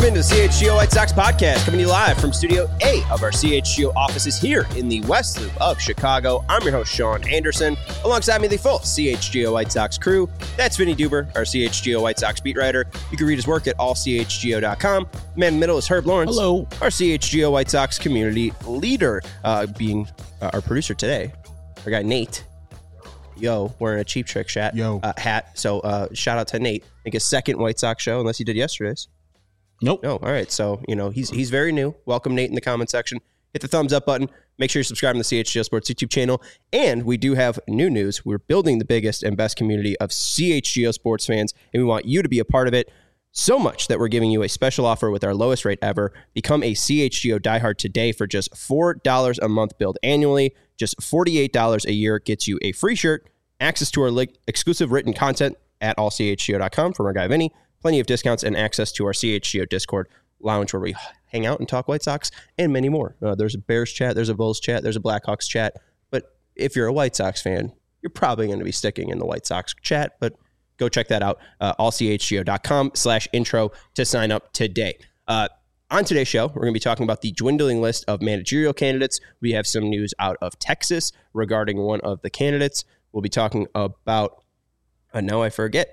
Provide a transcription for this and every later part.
Welcome into the CHGO White Sox podcast, coming to you live from Studio A of our CHGO offices here in the West Loop of Chicago. I'm your host, Sean Anderson. Alongside me, the full CHGO White Sox crew. That's Vinny Duber, our CHGO White Sox beat writer. You can read his work at allchgo.com. The man in the middle is Herb Lawrence. Hello. Our CHGO White Sox community leader, being our producer today, our guy Nate. Yo, wearing a Cheap Trick hat. So shout out to Nate. I think his second White Sox show, unless he did yesterday's. Nope. No. All right. So, he's very new. Welcome, Nate, in the comment section. Hit the thumbs up button. Make sure you subscribe to the CHGO Sports YouTube channel. And we do have new news. We're building the biggest and best community of CHGO sports fans, and we want you to be a part of it. So much that we're giving you a special offer with our lowest rate ever. Become a CHGO diehard today for just $4 a month billed annually. Just $48 a year gets you a free shirt, access to our exclusive written content at allchgo.com from our guy Vinny, plenty of discounts, and access to our CHGO Discord lounge where we hang out and talk White Sox and many more. There's a Bears chat, there's a Bulls chat, there's a Blackhawks chat. But if you're a White Sox fan, you're probably going to be sticking in the White Sox chat. But go check that out, allchgo.com/intro to sign up today. On today's show, we're going to be talking about the dwindling list of managerial candidates. We have some news out of Texas regarding one of the candidates. We'll be talking about, now I forget,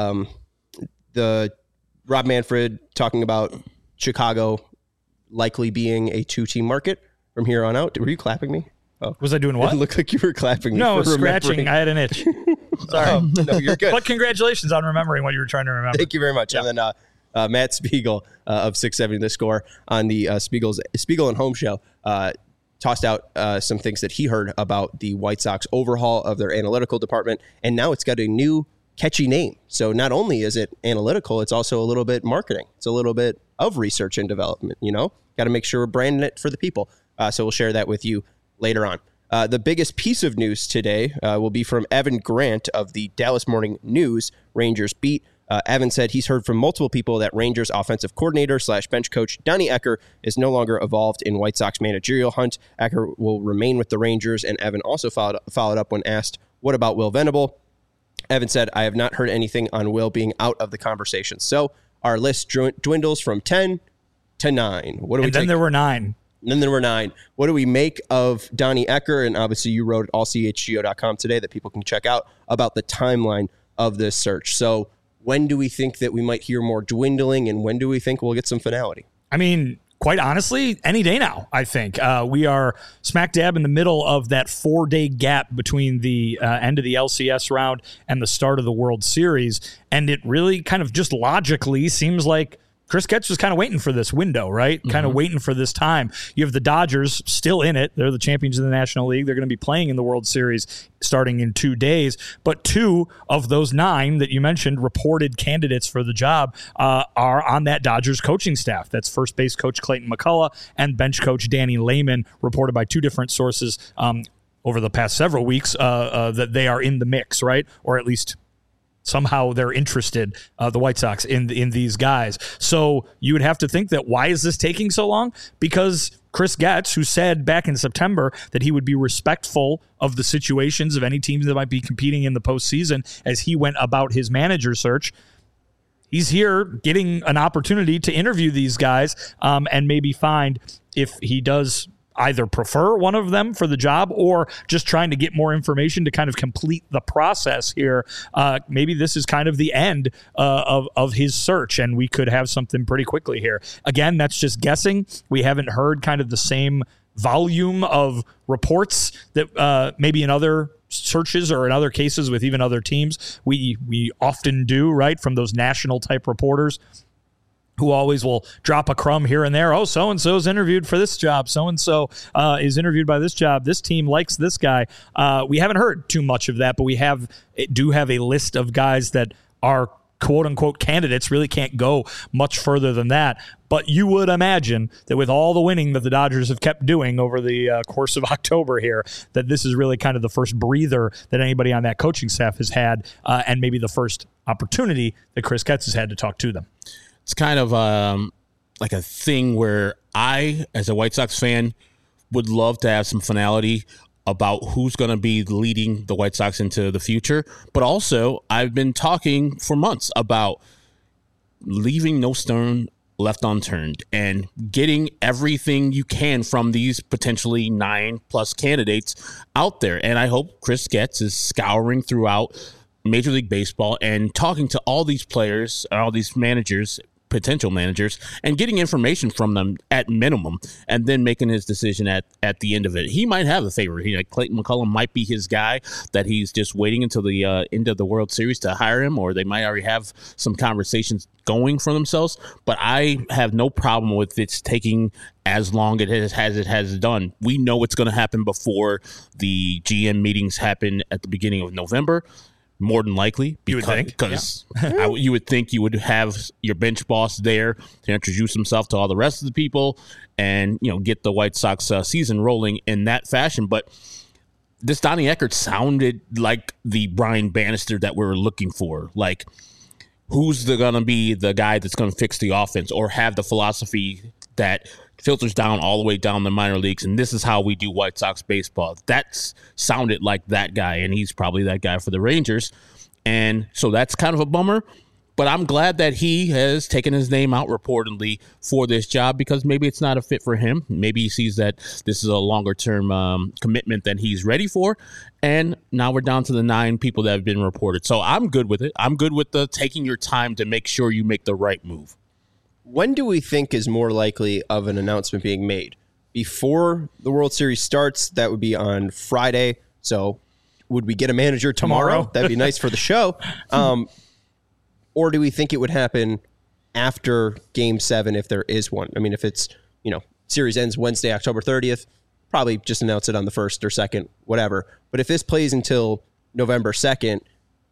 the Rob Manfred talking about Chicago likely being a two-team market from here on out. Were you clapping me? Oh. Was I doing what? It looked like you were clapping me. No, scratching. I had an itch. Sorry. No, you're good. But congratulations on remembering what you were trying to remember. Thank you very much. Yeah. And then Matt Spiegel of 670 The Score on the Spiegel and Home show tossed out some things that he heard about the White Sox overhaul of their analytical department. And now it's got a new catchy name. So not only is it analytical, it's also a little bit marketing. It's a little bit of research and development, Got to make sure we're branding it for the people. So we'll share that with you later on. The biggest piece of news today will be from Evan Grant of the Dallas Morning News Rangers beat. Evan said he's heard from multiple people that Rangers offensive coordinator / bench coach Donnie Ecker is no longer involved in White Sox managerial hunt. Ecker will remain with the Rangers, and Evan also followed up when asked, what about Will Venable? Evan said, I have not heard anything on Will being out of the conversation. So our list dwindles from 10 to 9. And then there were 9. And then there were 9. What do we make of Donnie Ecker? And obviously you wrote at allchgo.com today that people can check out about the timeline of this search. So when do we think that we might hear more dwindling, and when do we think we'll get some finality? I mean, quite honestly, any day now, I think. We are smack dab in the middle of that 4-day gap between the end of the LCS round and the start of the World Series. And it really kind of just logically seems like Chris Getz was kind of waiting for this window, right? Kind of waiting for this time. You have the Dodgers still in it. They're the champions of the National League. They're going to be playing in the World Series starting in 2 days. But 2 of those 9 that you mentioned reported candidates for the job are on that Dodgers coaching staff. That's first base coach Clayton McCullough and bench coach Danny Lehman, reported by 2 different sources over the past several weeks that they are in the mix, right? Or at least somehow they're interested, the White Sox, in these guys. So you would have to think that why is this taking so long? Because Chris Getz, who said back in September that he would be respectful of the situations of any teams that might be competing in the postseason as he went about his manager search, he's here getting an opportunity to interview these guys and maybe find if he does either prefer one of them for the job or just trying to get more information to kind of complete the process here. Maybe this is kind of the end of his search, and we could have something pretty quickly here. Again, that's just guessing. We haven't heard kind of the same volume of reports that maybe in other searches or in other cases with even other teams we often do, right, from those national type reporters who always will drop a crumb here and there. Oh, so-and-so's interviewed for this job. So-and-so is interviewed by this job. This team likes this guy. We haven't heard too much of that, but we do have a list of guys that are quote-unquote candidates. Really can't go much further than that. But you would imagine that with all the winning that the Dodgers have kept doing over the course of October here, that this is really kind of the first breather that anybody on that coaching staff has had, and maybe the first opportunity that Chris Getz has had to talk to them. It's kind of like a thing where I, as a White Sox fan, would love to have some finality about who's going to be leading the White Sox into the future. But also, I've been talking for months about leaving no stone left unturned and getting everything you can from these potentially 9+ candidates out there. And I hope Chris Getz is scouring throughout Major League Baseball and talking to all these players, all these managers, potential managers, and getting information from them at minimum, and then making his decision at the end of it. He might have a favorite. Clayton McCullum might be his guy that he's just waiting until the end of the World Series to hire him, or they might already have some conversations going for themselves. But I have no problem with it taking as long as it has done. We know what's going to happen before the GM meetings happen at the beginning of November. More than likely, because you would think you would have your bench boss there to introduce himself to all the rest of the people and, get the White Sox season rolling in that fashion. But this Donnie Eckert sounded like the Brian Bannister that we were looking for. Like, who's going to be the guy that's going to fix the offense or have the philosophy that filters down all the way down the minor leagues, and this is how we do White Sox baseball. That sounded like that guy, and he's probably that guy for the Rangers. And so that's kind of a bummer, but I'm glad that he has taken his name out reportedly for this job, because maybe it's not a fit for him. Maybe he sees that this is a longer-term commitment than he's ready for, and now we're down to the 9 people that have been reported. So I'm good with it. I'm good with the taking your time to make sure you make the right move. When do we think is more likely of an announcement being made? Before the World Series starts, that would be on Friday. So would we get a manager tomorrow? That'd be nice for the show. Or do we think it would happen after Game 7 if there is one? I mean, if it's, series ends Wednesday, October 30th, probably just announce it on the 1st or 2nd, whatever. But if this plays until November 2nd,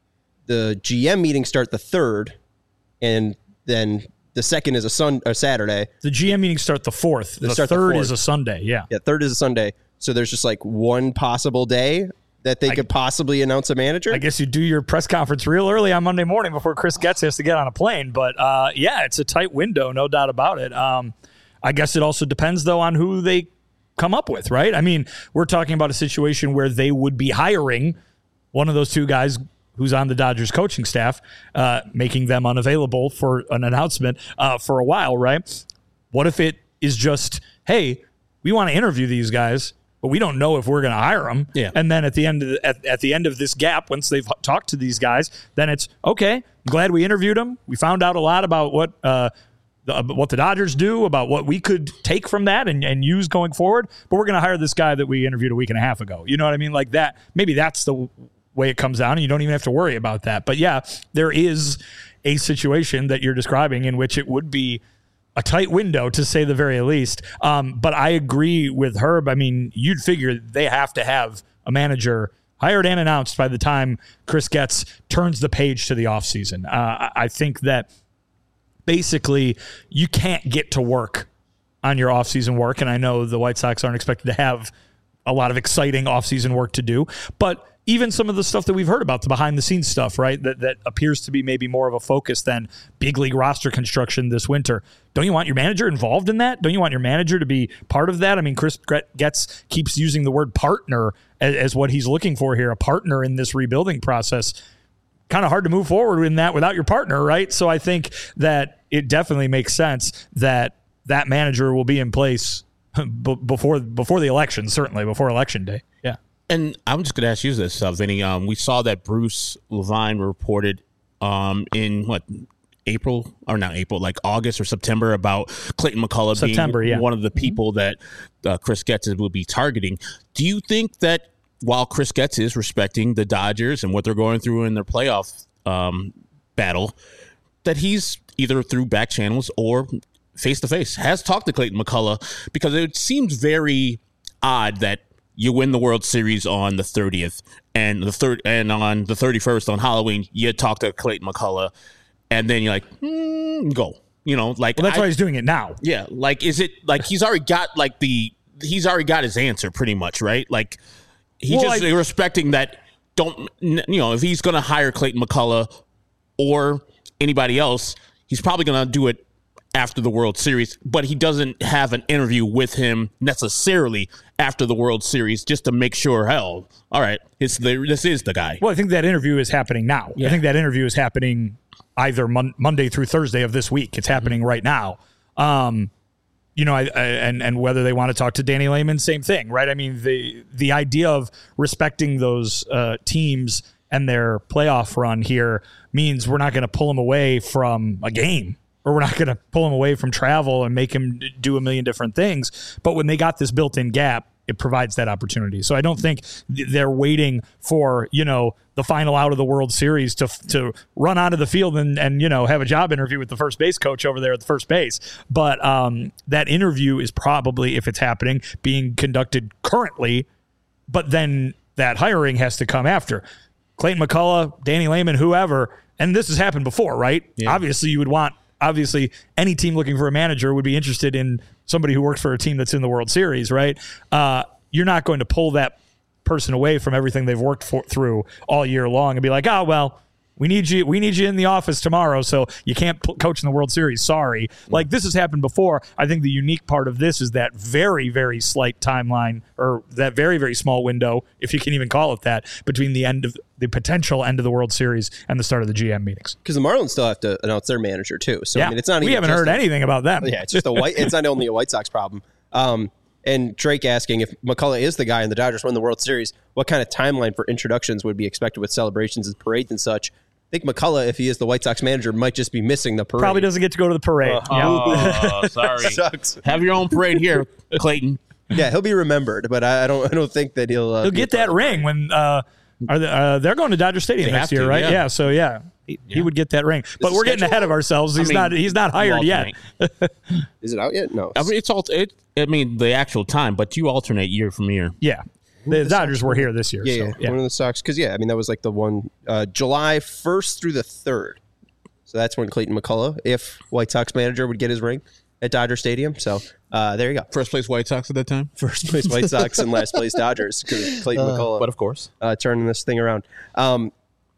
the GM meetings start the 3rd, and then the 2nd is a Saturday. The GM meetings start the 4th. The 3rd is a Sunday. Yeah. Yeah. 3rd is a Sunday. So there's just like one possible day that they could possibly announce a manager. I guess you do your press conference real early on Monday morning before Chris Getz has to get on a plane. But it's a tight window, no doubt about it. I guess it also depends, though, on who they come up with, right? I mean, we're talking about a situation where they would be hiring one of those 2 guys who's on the Dodgers coaching staff, making them unavailable for an announcement for a while, right? What if it is just, hey, we want to interview these guys, but we don't know if we're going to hire them. Yeah. And then at the end of this gap, once they've talked to these guys, then it's, okay, I'm glad we interviewed them. We found out a lot about what the Dodgers do, about what we could take from that and use going forward, but we're going to hire this guy that we interviewed a week and a half ago. You know what I mean? Like that. Maybe that's the way it comes down, and you don't even have to worry about that. But yeah, there is a situation that you're describing in which it would be a tight window, to say the very least. But I agree with Herb. I mean, you'd figure they have to have a manager hired and announced by the time Chris Getz turns the page to the offseason. I think that basically you can't get to work on your offseason work, and I know the White Sox aren't expected to have a lot of exciting offseason work to do, but even some of the stuff that we've heard about, the behind-the-scenes stuff, right, that appears to be maybe more of a focus than big league roster construction this winter. Don't you want your manager involved in that? Don't you want your manager to be part of that? I mean, Chris Getz keeps using the word partner as what he's looking for here, a partner in this rebuilding process. Kind of hard to move forward in that without your partner, right? So I think that it definitely makes sense that that manager will be in place before the election, certainly before Election Day. Yeah. And I'm just going to ask you this, Vinny. We saw that Bruce Levine reported in April, or not April, like August or September, about Clayton McCullough being one of the people that Chris Getz will be targeting. Do you think that while Chris Getz is respecting the Dodgers and what they're going through in their playoff battle, that he's either through back channels or face-to-face has talked to Clayton McCullough? Because it seems very odd that you win the World Series on the 30th, and on the 31st on Halloween, you talk to Clayton McCullough, and then you're like, go. Well, that's why he's doing it now. Yeah, like, is it like he's already got his answer pretty much, right? Like, respecting that. If he's going to hire Clayton McCullough or anybody else, he's probably going to do it after the World Series, but he doesn't have an interview with him necessarily after the World Series just to make sure, all right, this is the guy. Well, I think that interview is happening now. Yeah. I think that interview is happening either Monday through Thursday of this week. It's happening right now. And whether they want to talk to Danny Lehman, same thing, right? I mean, the idea of respecting those teams and their playoff run here means we're not going to pull them away from a game, or we're not going to pull them away from travel and make them do a million different things. But when they got this built-in gap, it provides that opportunity. So I don't think they're waiting for, the final out of the World Series to run onto the field and have a job interview with the first base coach over there at the first base. But that interview is probably, if it's happening, being conducted currently, but then that hiring has to come after. Clayton McCullough, Danny Lehman, whoever, and this has happened before, right? Yeah. Obviously, any team looking for a manager would be interested in somebody who works for a team that's in the World Series, right? You're not going to pull that person away from everything they've worked through all year long and be like, oh, well, we need you in the office tomorrow, so you can't coach in the World Series. Sorry. Like, this has happened before. I think the unique part of this is that very, very slight timeline, or that very, very small window, if you can even call it that, between the potential end of the World Series and the start of the GM meetings. Because the Marlins still have to announce their manager too. So yeah. I mean, it's not. We haven't heard anything about them. Yeah, it's just it's not only a White Sox problem. And Drake asking if McCullough is the guy and the Dodgers win the World Series, what kind of timeline for introductions would be expected with celebrations and parades and such? I think McCullough, if he is the White Sox manager, might just be missing the parade. Probably doesn't get to go to the parade. Sorry. Sucks. Have your own parade here, Clayton. Yeah, he'll be remembered, but I don't think that he'll get that ring when they're going to Dodger Stadium next year, right? Yeah. So he would get that ring. But we're getting ahead of ourselves. He's not hired yet. Is it out yet? No. I mean, the actual time, but you alternate year from year. Yeah. The Dodgers were here this year. Yeah. One of the Sox. Because, that was like the one July 1st through the 3rd. So that's when Clayton McCullough, if White Sox manager, would get his ring at Dodger Stadium. So there you go. First place White Sox at that time? First place White Sox and last place Dodgers, because Clayton McCullough. But of course. Turning this thing around. The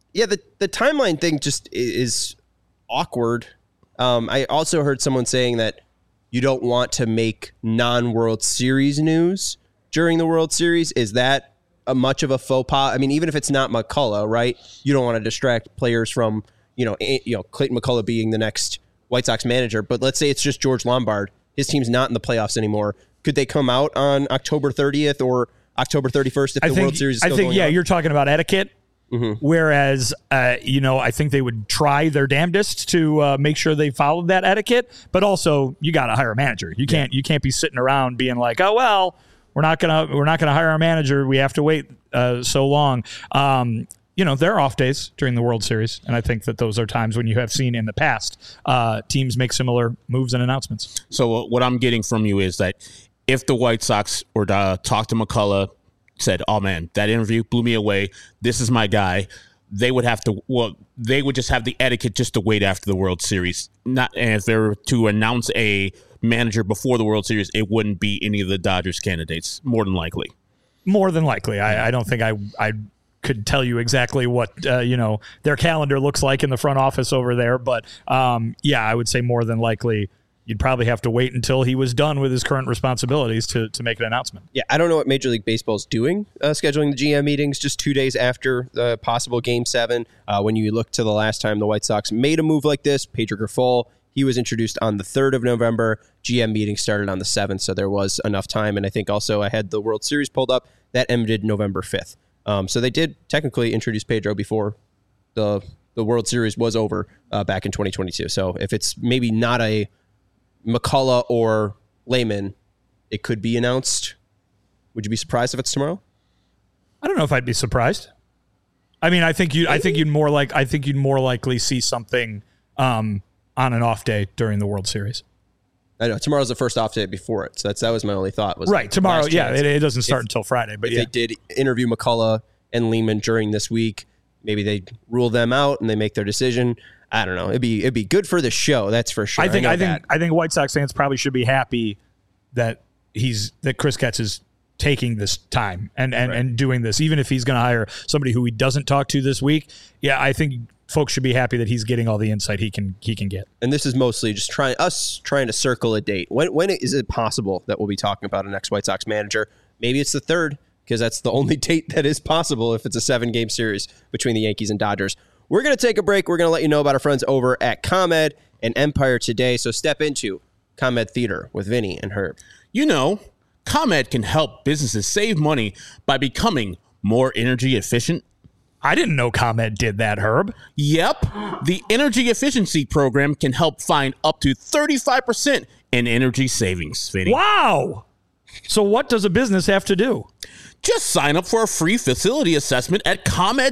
timeline thing just is awkward. I also heard someone saying that you don't want to make non-World Series news during the World Series. Is that much of a faux pas? I mean, even if it's not McCullough, right? You don't want to distract players from, Clayton McCullough being the next White Sox manager. But let's say it's just George Lombard. His team's not in the playoffs anymore. Could they come out on October 30th or October 31st if the World Series is still going on? You're talking about etiquette. Mm-hmm. Whereas, I think they would try their damnedest to make sure they followed that etiquette. But also, you got to hire a manager. You can't be sitting around being like, oh well, we're not gonna hire a manager. We have to wait so long. There are off days during the World Series, and I think that those are times when you have seen in the past teams make similar moves and announcements. So what I'm getting from you is that if the White Sox were to talk to McCullough, said, oh man, that interview blew me away, this is my guy, they would just have the etiquette just to wait after the World Series. And if they were to announce a manager before the World Series, it wouldn't be any of the Dodgers candidates, more than likely. I don't think I could tell you exactly what their calendar looks like in the front office over there, but I would say more than likely you'd probably have to wait until he was done with his current responsibilities to make an announcement. Yeah, I don't know what Major League Baseball is doing, scheduling the GM meetings just 2 days after the possible Game 7. When you look to the last time the White Sox made a move like this, Pedro Grifol, he was introduced on the 3rd of November. GM meeting started on the 7th, so there was enough time. And I think also I had the World Series pulled up. That ended November 5th. So they did technically introduce Pedro before the World Series was over back in 2022. So if it's maybe not a McCullough or Lehman, it could be announced. Would you be surprised if it's tomorrow? I don't know if I'd be surprised. I mean, I think you'd more likely see something on an off day during the World Series. I know tomorrow's the first off day before it, so that was my only thought. Was right tomorrow? Yeah, it doesn't start until Friday. But if they did interview McCullough and Lehman during this week, maybe they rule them out and they make their decision. I don't know. It'd be good for the show. That's for sure. I think White Sox fans probably should be happy that Chris Getz is taking this time and doing this, even if he's going to hire somebody who he doesn't talk to this week. Yeah, I think folks should be happy that he's getting all the insight he can get. And this is mostly just trying to circle a date. When is it possible that we'll be talking about a next White Sox manager? Maybe it's the 3rd, because that's the only date that is possible if it's a 7-game series between the Yankees and Dodgers. We're going to take a break. We're going to let you know about our friends over at ComEd and Empire today. So step into ComEd Theater with Vinny and Herb. You know, ComEd can help businesses save money by becoming more energy efficient. I didn't know ComEd did that, Herb. Yep. The energy efficiency program can help find up to 35% in energy savings, Vinny. Wow. So what does a business have to do? Just sign up for a free facility assessment at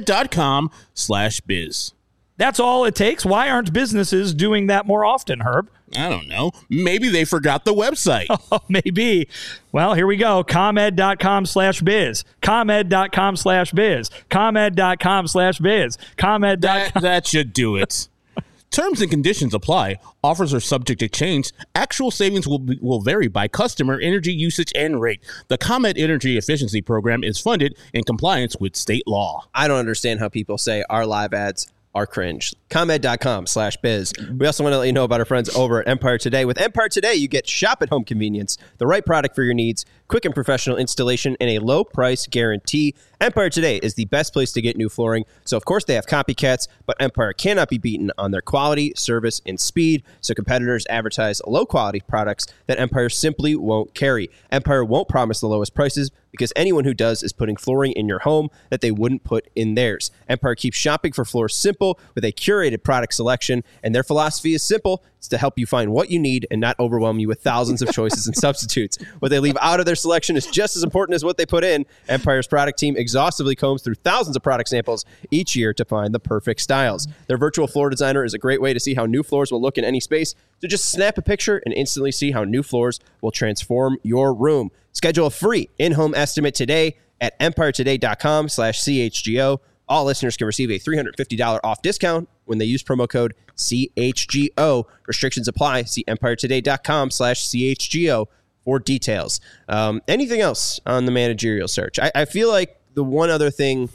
ComEd.com/biz. That's all it takes? Why aren't businesses doing that more often, Herb? I don't know. Maybe they forgot the website. Oh, maybe. Well, here we go. ComEd.com/biz. ComEd.com/biz. ComEd.com/biz. ComEd.com. That should do it. Terms and conditions apply. Offers are subject to change. Actual savings will vary by customer, energy usage, and rate. The ComEd Energy Efficiency Program is funded in compliance with state law. I don't understand how people say our live ads are cringe. ComEd.com/biz. We also want to let you know about our friends over at Empire Today. With Empire Today, you get shop at home convenience, the right product for your needs, quick and professional installation, and a low price guarantee. Empire Today is the best place to get new flooring. So, of course, they have copycats, but Empire cannot be beaten on their quality, service, and speed. So competitors advertise low-quality products that Empire simply won't carry. Empire won't promise the lowest prices because anyone who does is putting flooring in your home that they wouldn't put in theirs. Empire keeps shopping for floors simple with a curated product selection, and their philosophy is simple. It's to help you find what you need and not overwhelm you with thousands of choices and substitutes. What they leave out of their selection is just as important as what they put in. Empire's product team exhaustively combs through thousands of product samples each year to find the perfect styles. Their virtual floor designer is a great way to see how new floors will look in any space. So just snap a picture and instantly see how new floors will transform your room. Schedule a free in-home estimate today at empiretoday.com/CHGO. All listeners can receive a $350 off discount when they use promo code CHGO. Restrictions apply. See empiretoday.com/CHGO for details. Anything else on the managerial search? I feel like the one other thing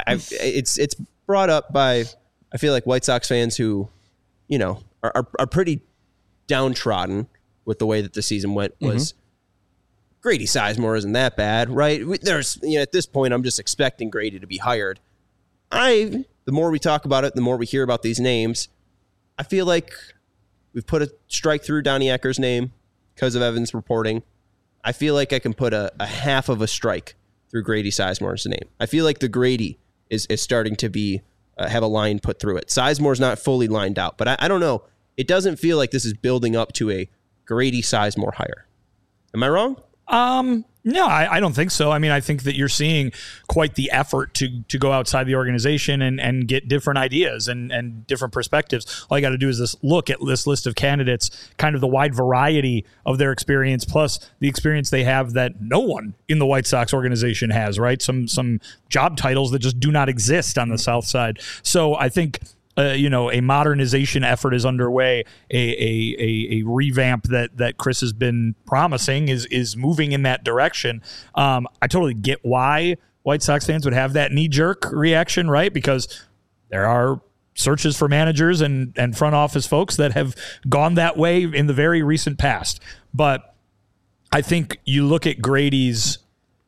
it's brought up by, I feel like, White Sox fans who, you know, are pretty downtrodden with the way that the season went was Grady Sizemore isn't that bad, right? There's, you know, at this point, I'm just expecting Grady to be hired. The more we talk about it, the more we hear about these names, I feel like we've put a strike through Donnie Ecker's name because of Evans reporting. I feel like I can put a half of a strike through Grady Sizemore's name. I feel like the Grady is starting to be have a line put through it. Sizemore's not fully lined out, but I don't know. It doesn't feel like this is building up to a Grady Sizemore hire. Am I wrong? No, I don't think so. I mean, I think that you're seeing quite the effort to go outside the organization and get different ideas and different perspectives. All you got to do is look at this list of candidates, kind of the wide variety of their experience, plus the experience they have that no one in the White Sox organization has, right? Some job titles that just do not exist on the South Side. So I think a modernization effort is underway. A revamp that Chris has been promising is moving in that direction. I totally get why White Sox fans would have that knee-jerk reaction, right? Because there are searches for managers and front office folks that have gone that way in the very recent past. But I think you look at Grady's,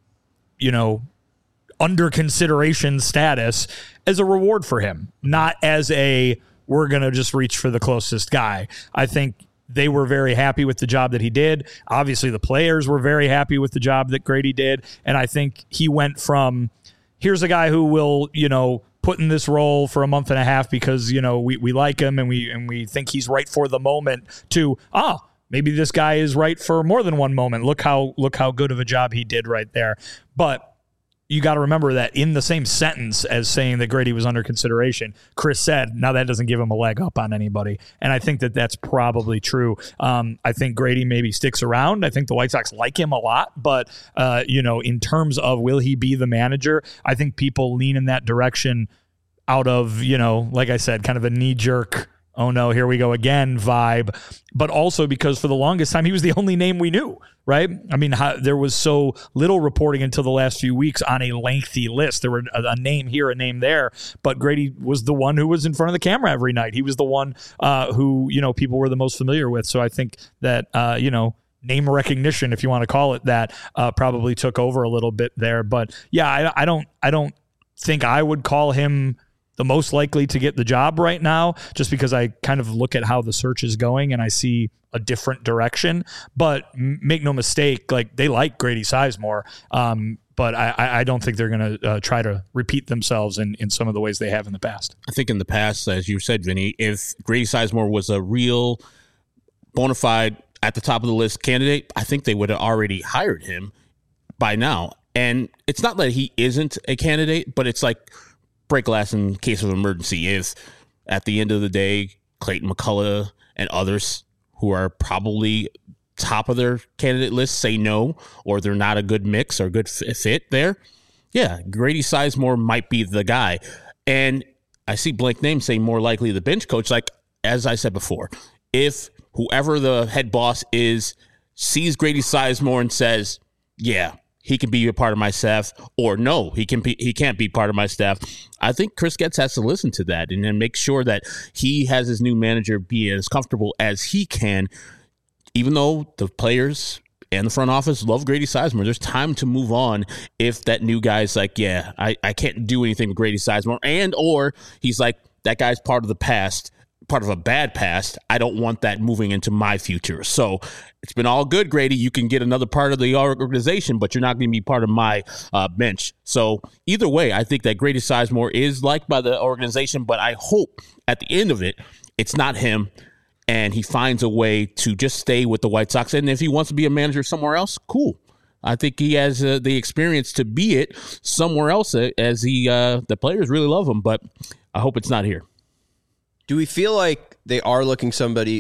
under consideration status as a reward for him, not as we're going to just reach for the closest guy. I think they were very happy with the job that he did. Obviously, the players were very happy with the job that Grady did. And I think he went from, here's a guy who will, put in this role for a month and a half because, we like him and we think he's right for the moment, to, maybe this guy is right for more than one moment. Look how good of a job he did right there. But you got to remember that in the same sentence as saying that Grady was under consideration, Chris said, now that doesn't give him a leg up on anybody. And I think that that's probably true. I think Grady maybe sticks around. I think the White Sox like him a lot. But, in terms of will he be the manager, I think people lean in that direction out of, like I said, kind of a knee-jerk, oh no, here we go again vibe, but also because for the longest time, he was the only name we knew, right? I mean, there was so little reporting until the last few weeks on a lengthy list. There were a name here, a name there, but Grady was the one who was in front of the camera every night. He was the one who, people were the most familiar with. So I think that, name recognition, if you want to call it that, probably took over a little bit there. But yeah, I don't think I would call him the most likely to get the job right now, just because I kind of look at how the search is going and I see a different direction. But make no mistake, like, they like Grady Sizemore. But I don't think they're going to try to repeat themselves in some of the ways they have in the past. I think in the past, as you said, Vinny, if Grady Sizemore was a real bona fide at the top of the list candidate, I think they would have already hired him by now. And it's not that he isn't a candidate, but it's like break glass in case of emergency. If at the end of the day, Clayton McCullough and others who are probably top of their candidate list say no, or they're not a good mix or good fit there, yeah, Grady Sizemore might be the guy. And I see blank name saying more likely the bench coach. Like, as I said before, if whoever the head boss is sees Grady Sizemore and says, yeah, he can be a part of my staff, or no, he can't be part of my staff, I think Chris Getz has to listen to that and then make sure that he has his new manager be as comfortable as he can. Even though the players and the front office love Grady Sizemore, there's time to move on if that new guy's like, yeah, I can't do anything with Grady Sizemore, and or he's like, that guy's part of the past, part of a bad past. I don't want that moving into my future. So it's been all good, Grady. You can get another part of the organization, but you're not going to be part of my bench. So either way, I think that Grady Sizemore is liked by the organization, but I hope at the end of it, it's not him, and he finds a way to just stay with the White Sox. And if he wants to be a manager somewhere else, cool. I think he has the experience to be it somewhere else, as the players really love him. But I hope it's not here. Do we feel like they are looking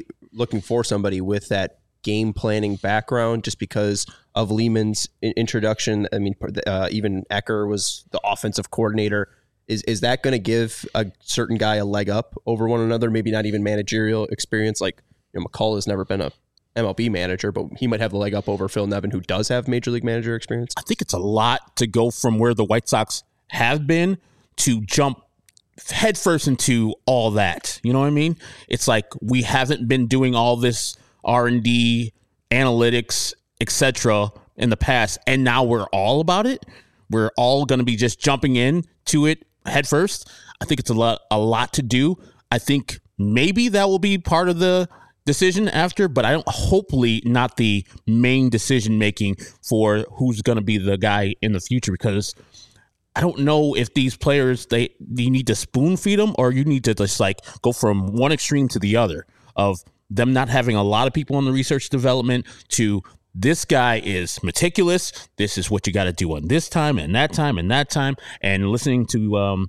for somebody with that game planning background, just because of Lehman's introduction? I mean, even Ecker was the offensive coordinator. Is that going to give a certain guy a leg up over one another? Maybe not even managerial experience. Like, McCullough has never been a MLB manager, but he might have the leg up over Phil Nevin, who does have major league manager experience. I think it's a lot to go from where the White Sox have been to jump headfirst into all that. You know what I mean? It's like we haven't been doing all this R&D, analytics, etc. in the past, and now we're all about it. We're all going to be just jumping in to it headfirst. I think it's a lot to do. I think maybe that will be part of the decision after, but I don't. Hopefully, not the main decision making for who's going to be the guy in the future, because I don't know if these players, you need to spoon feed them, or you need to just like go from one extreme to the other of them not having a lot of people in the research development to this guy is meticulous. This is what you got to do on this time and that time and that time, and listening to,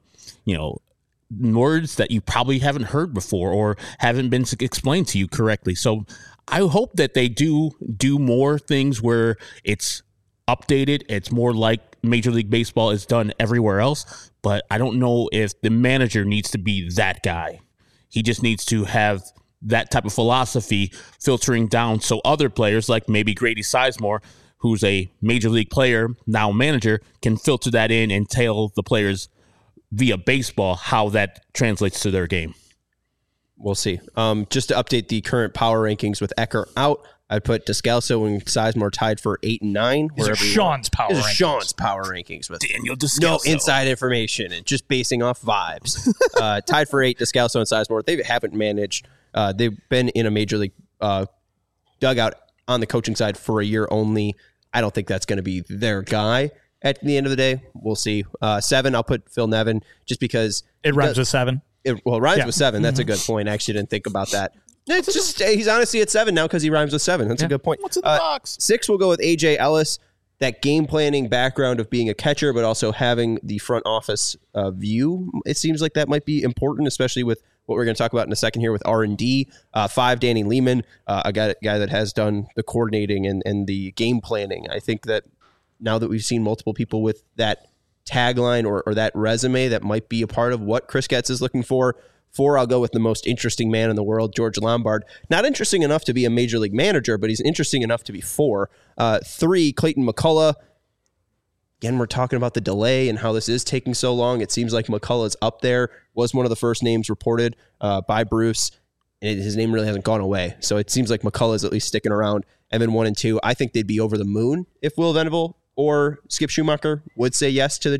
words that you probably haven't heard before or haven't been explained to you correctly. So I hope that they do more things where it's updated. It's more like Major League Baseball is done everywhere else, but I don't know if the manager needs to be that guy. He just needs to have that type of philosophy filtering down so other players like maybe Grady Sizemore, who's a major league player, now manager, can filter that in and tell the players via baseball how that translates to their game. We'll see. Just to update the current power rankings with Ecker out, I'd put Descalso and Sizemore tied for 8 and 9. These are Sean's power rankings. Sean's power rankings with Daniel Descalso. No inside information and just basing off vibes. Tied for 8, Descalso and Sizemore. They haven't managed. They've been in a major league dugout on the coaching side for a year only. I don't think that's going to be their guy at the end of the day. We'll see. 7, I'll put Phil Nevin just because it rhymes with 7. It rhymes with 7. That's a good point. I actually didn't think about that. It's just he's honestly at 7 now because he rhymes with 7. That's a good point. What's in the box? 6, we'll go with AJ Ellis. That game planning background of being a catcher, but also having the front office view. It seems like that might be important, especially with what we're going to talk about in a second here with R&D. 5, Danny Lehman, a guy that has done the coordinating and the game planning. I think that now that we've seen multiple people with that tagline or that resume, that might be a part of what Chris Getz is looking for. 4, I'll go with the most interesting man in the world, George Lombard. Not interesting enough to be a major league manager, but he's interesting enough to be 4. 3, Clayton McCullough. Again, we're talking about the delay and how this is taking so long. It seems like McCullough's up there, was one of the first names reported by Bruce, and his name really hasn't gone away. So it seems like McCullough's at least sticking around. And then 1 and 2, I think they'd be over the moon if Will Venable or Skip Schumacher would say yes to the job.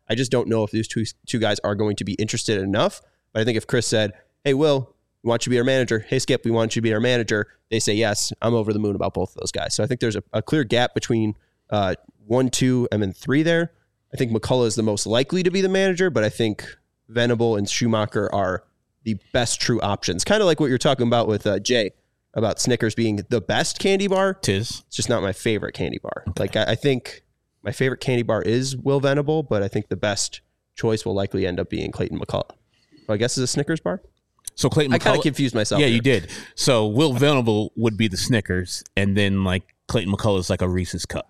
I just don't know if these two guys are going to be interested enough. But I think if Chris said, hey, Will, we want you to be our manager. Hey, Skip, we want you to be our manager. They say, yes, I'm over the moon about both of those guys. So I think there's a clear gap between 1, 2, and then 3 there. I think McCullough is the most likely to be the manager, but I think Venable and Schumacher are the best true options. Kind of like what you're talking about with Jay about Snickers being the best candy bar. It's just not my favorite candy bar. Okay. Like I think my favorite candy bar is Will Venable, but I think the best choice will likely end up being Clayton McCullough. Well, I guess is a Snickers bar. So Clayton McCullough, I kind of confused myself. Yeah, here. you did. So Will Venable would be the Snickers, and then like Clayton McCullough is like a Reese's Cup.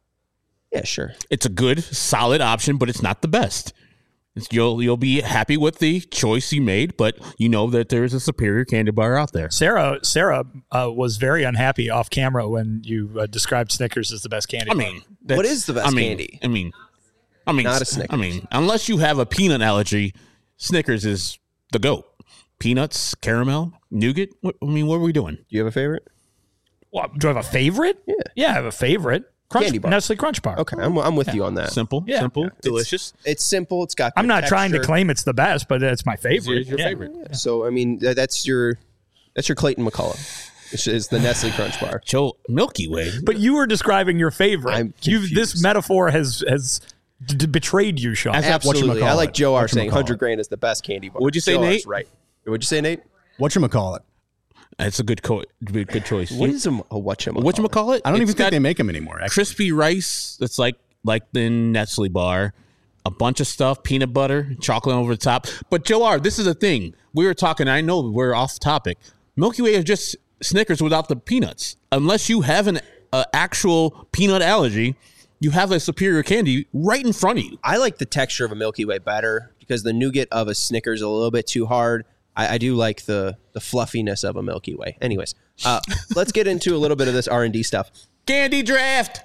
Yeah, sure. It's a good, solid option, but it's not the best. You'll be happy with the choice you made, but you know that there's a superior candy bar out there. Sarah was very unhappy off camera when you described Snickers as the best candy bar. What is the best candy? I mean, not a Snickers. I mean, unless you have a peanut allergy, Snickers is the GOAT. Peanuts, caramel, nougat. What are we doing? Do you have a favorite? Well, do I have a favorite? Yeah, I have a favorite. Candy bar. Nestle Crunch Bar. Okay, I'm with you on that. Simple, delicious. It's simple. It's got. I'm not trying to texture. claim it's the best, but it's my favorite. It's your favorite. Yeah. So I mean, that's your Clayton McCullough. It's the Nestle Crunch Bar. Joe, Milky Way. But you were describing your favorite. I'm confused. This metaphor has betrayed you, Sean. Absolutely. I like Joe R saying 100 grand is the best candy bar. Would you say, Joe Nate? R's right. Would you say, Nate? Whatchamacallit? It's a good choice. What is a whatchamacallit? Whatchamacallit? I don't even It's think got they make them anymore. Actually. crispy rice that's like the Nestle bar, a bunch of stuff, peanut butter, chocolate over the top. But Joe R., this is the thing. We were talking, I know we're off topic. Milky Way is just Snickers without the peanuts. Unless you have an actual peanut allergy, you have a superior candy right in front of you. I like the texture of a Milky Way better because the nougat of a Snickers is a little bit too hard. I do like the fluffiness of a Milky Way. Anyways, let's get into a little bit of this R&D stuff. Candy draft.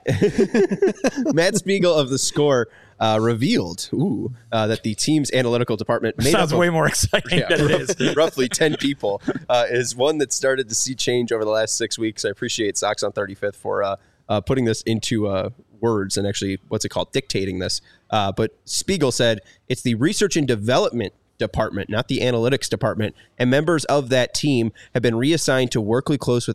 Matt Spiegel of The Score revealed that the team's analytical department made Sounds up way more exciting than it is. roughly 10 people is one that started to see change over the last 6 weeks. I appreciate Sox on 35th for putting this into words and actually, dictating this. But Spiegel said it's the research and development department, not the analytics department, and members of that team have been reassigned to work closely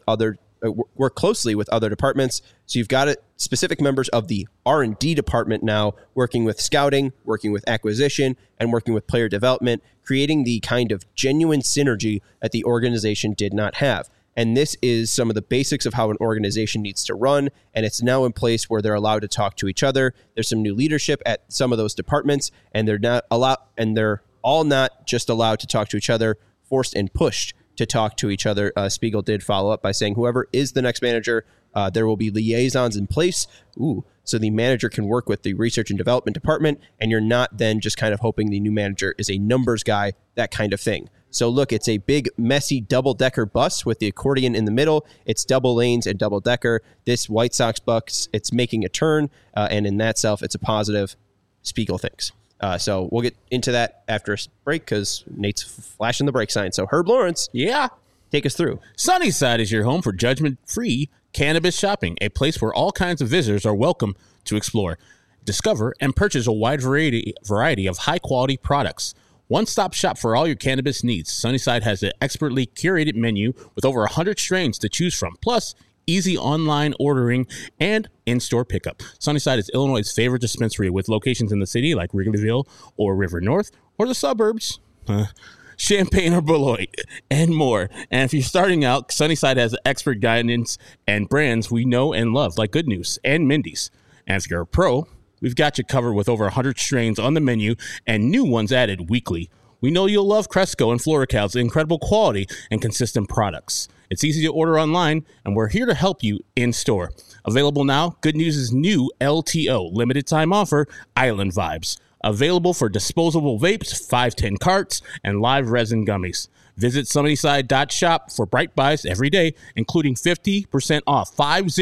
with other departments. So you've got specific members of the R&D department now working with scouting, working with acquisition, and working with player development, creating the kind of genuine synergy that the organization did not have. And this is some of the basics of how an organization needs to run. And it's now in place where they're allowed to talk to each other. There's some new leadership at some of those departments, and they're all not just allowed to talk to each other, forced and pushed to talk to each other. Spiegel did follow up by saying, whoever is the next manager, there will be liaisons in place. So the manager can work with the research and development department, and you're not then just kind of hoping the new manager is a numbers guy, that kind of thing. So look, it's a big, messy double-decker bus with the accordion in the middle. It's double lanes and double-decker. This White Sox bus, it's making a turn, and in that self, it's a positive, Spiegel thinks. So we'll get into that after a break because Nate's flashing the brake sign. So Herb Lawrence, take us through. Sunnyside is your home for judgment-free cannabis shopping, a place where all kinds of visitors are welcome to explore, discover, and purchase a wide variety of high-quality products. One-stop shop for all your cannabis needs. Sunnyside has an expertly curated menu with over 100 strains to choose from, plus easy online ordering and in-store pickup. Sunnyside is Illinois' favorite dispensary with locations in the city like Wrigleyville or River North or the suburbs, Champaign or Beloit, and more. And if you're starting out, Sunnyside has expert guidance and brands we know and love like Good News and Mindy's. And if you're a pro, we've got you covered with over 100 strains on the menu and new ones added weekly. We know you'll love Cresco and FloraCal's incredible quality and consistent products. It's easy to order online, and we're here to help you in-store. Available now, Good News' new LTO, limited time offer, Island Vibes. Available for disposable vapes, 510 carts, and live resin gummies. Visit Sunnyside.shop for bright buys every day, including 50% off,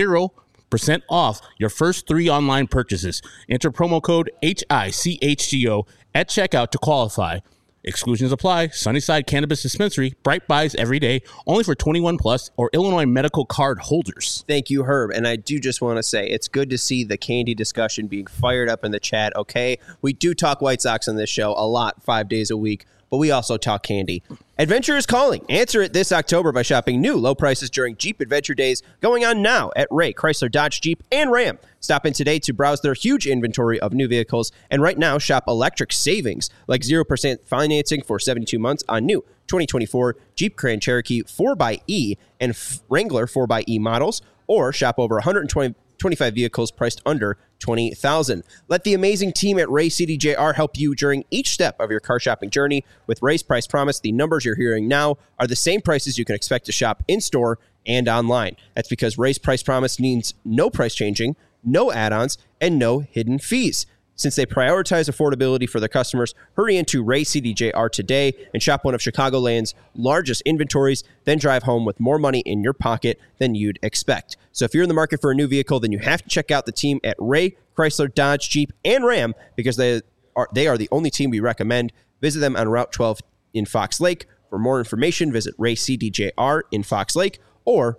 50% off your first 3 online purchases. Enter promo code HICHGO at checkout to qualify. Exclusions apply. Sunnyside Cannabis Dispensary. Bright buys every day. Only for 21 plus or Illinois medical card holders. Thank you, Herb. And I do just want to say it's good to see the candy discussion being fired up in the chat. Okay, we do talk White Sox on this show a lot, 5 days a week, but we also talk candy. Adventure is calling. Answer it this October by shopping new low prices during Jeep Adventure Days going on now at Ray, Chrysler, Dodge, Jeep, and Ram. Stop in today to browse their huge inventory of new vehicles. And right now, shop electric savings like 0% financing for 72 months on new 2024 Jeep Grand Cherokee 4xE and Wrangler 4xE models, or shop over 125 vehicles priced under $20,000. Let the amazing team at Ray CDJR help you during each step of your car shopping journey. With Ray's Price Promise, the numbers you're hearing now are the same prices you can expect to shop in-store and online. That's because Ray's Price Promise means no price changing, no add-ons, and no hidden fees. Since they prioritize affordability for their customers, hurry into Ray CDJR today and shop one of Chicagoland's largest inventories, then drive home with more money in your pocket than you'd expect. So if you're in the market for a new vehicle, then you have to check out the team at Ray, Chrysler, Dodge, Jeep, and Ram, because they are the only team we recommend. Visit them on Route 12 in Fox Lake. For more information, visit Ray CDJR in Fox Lake or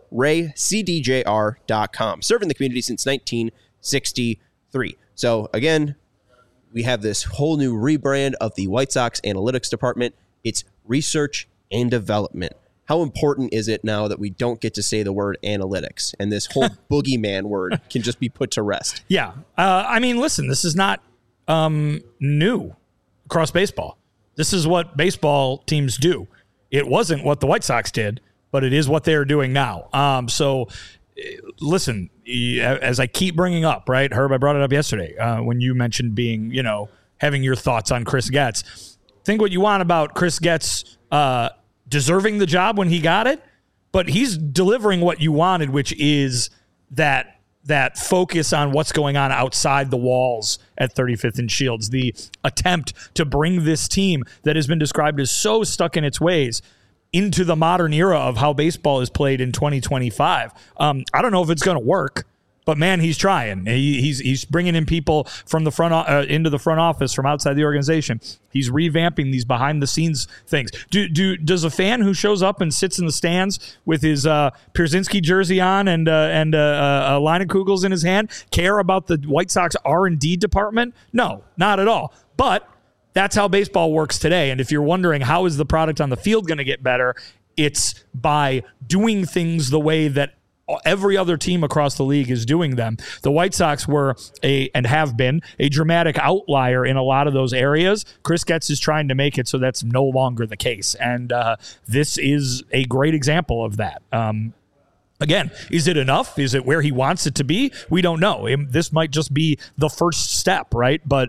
raycdjr.com. Serving the community since 1963. So again, we have this whole new rebrand of the White Sox analytics department. It's research and development. How important is it now that we don't get to say the word analytics and this whole boogeyman word can just be put to rest? Yeah. I mean, listen, this is not new across baseball. This is what baseball teams do. It wasn't what the White Sox did, but it is what they're doing now. So listen, as I keep bringing up, right, Herb, I brought it up yesterday when you mentioned being, having your thoughts on Chris Getz. Think what you want about Chris Getz deserving the job when he got it, but he's delivering what you wanted, which is that focus on what's going on outside the walls at 35th and Shields, the attempt to bring this team that has been described as so stuck in its ways into the modern era of how baseball is played in 2025. I don't know if it's going to work, but man, he's trying. He's bringing in people from the front into the front office from outside the organization. He's revamping these behind the scenes things. Does a fan who shows up and sits in the stands with his Pierzynski jersey on and a line of Kugels in his hand care about the White Sox R&D department? No, not at all. But that's how baseball works today. And if you're wondering how is the product on the field going to get better, it's by doing things the way that every other team across the league is doing them. The White Sox were and have been a dramatic outlier in a lot of those areas. Chris Getz is trying to make it so that's no longer the case. And this is a great example of that. Again, is it enough? Is it where he wants it to be? We don't know. This might just be the first step, right? But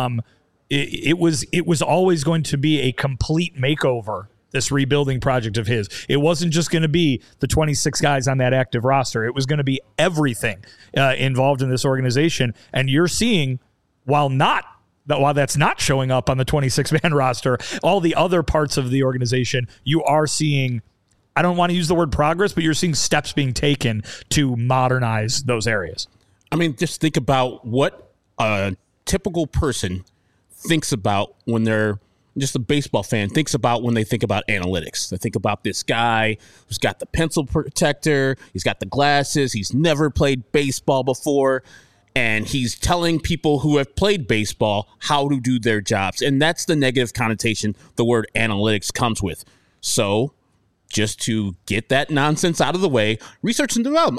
it was always going to be a complete makeover, this rebuilding project of his. It wasn't just going to be the 26 guys on that active roster. It was going to be everything involved in this organization. And you're seeing, while that's not showing up on the 26-man roster, all the other parts of the organization, you are seeing, I don't want to use the word progress, but you're seeing steps being taken to modernize those areas. I mean, just think about what a typical person thinks about when they're just a baseball fan, thinks about when they think about analytics. They think about this guy who's got the pencil protector, he's got the glasses, he's never played baseball before, and he's telling people who have played baseball how to do their jobs. And that's the negative connotation the word analytics comes with. So just to get that nonsense out of the way, research and development.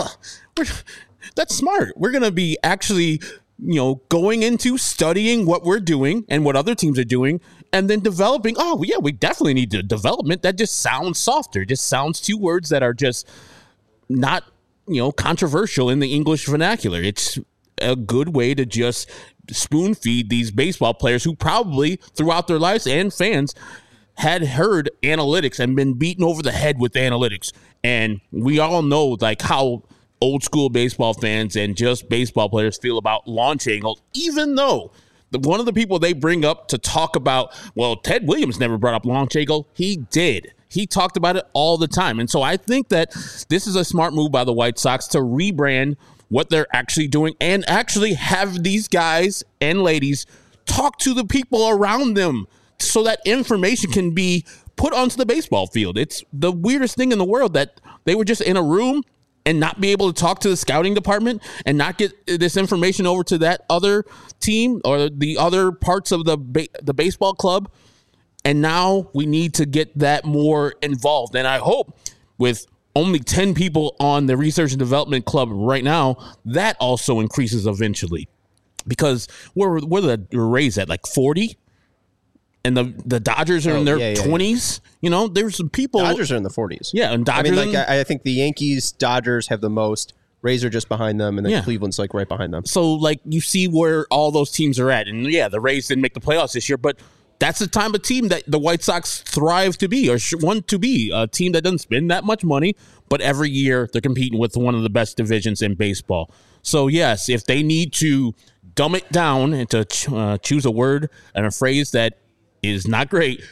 That's smart. We're going to be actually going into studying what we're doing and what other teams are doing, and then developing. Oh, yeah, we definitely need the development. That just sounds softer. It just sounds two words that are just not, controversial in the English vernacular. It's a good way to just spoon feed these baseball players who probably throughout their lives and fans had heard analytics and been beaten over the head with analytics. And we all know how old school baseball fans and just baseball players feel about launch angles, even though one of the people they bring up to talk about, well, Ted Williams never brought up launch angle. He did. He talked about it all the time. And so I think that this is a smart move by the White Sox to rebrand what they're actually doing and actually have these guys and ladies talk to the people around them so that information can be put onto the baseball field. It's the weirdest thing in the world that they were just in a room and not be able to talk to the scouting department and not get this information over to that other team or the other parts of the baseball club. And now we need to get that more involved. And I hope with only 10 people on the research and development club right now, that also increases eventually. Because where the Rays at, like 40? And the Dodgers are in their 20s. Yeah. You know, there's some people. Dodgers are in the 40s. Yeah, and Dodgers. I mean, I think the Yankees, Dodgers have the most. Rays are just behind them, and then Cleveland's like right behind them. So, like, you see where all those teams are at. And yeah, the Rays didn't make the playoffs this year, but that's the type of team that the White Sox thrive to be or want to be. A team that doesn't spend that much money, but every year they're competing with one of the best divisions in baseball. So, yes, if they need to dumb it down and to choose a word and a phrase that is not great,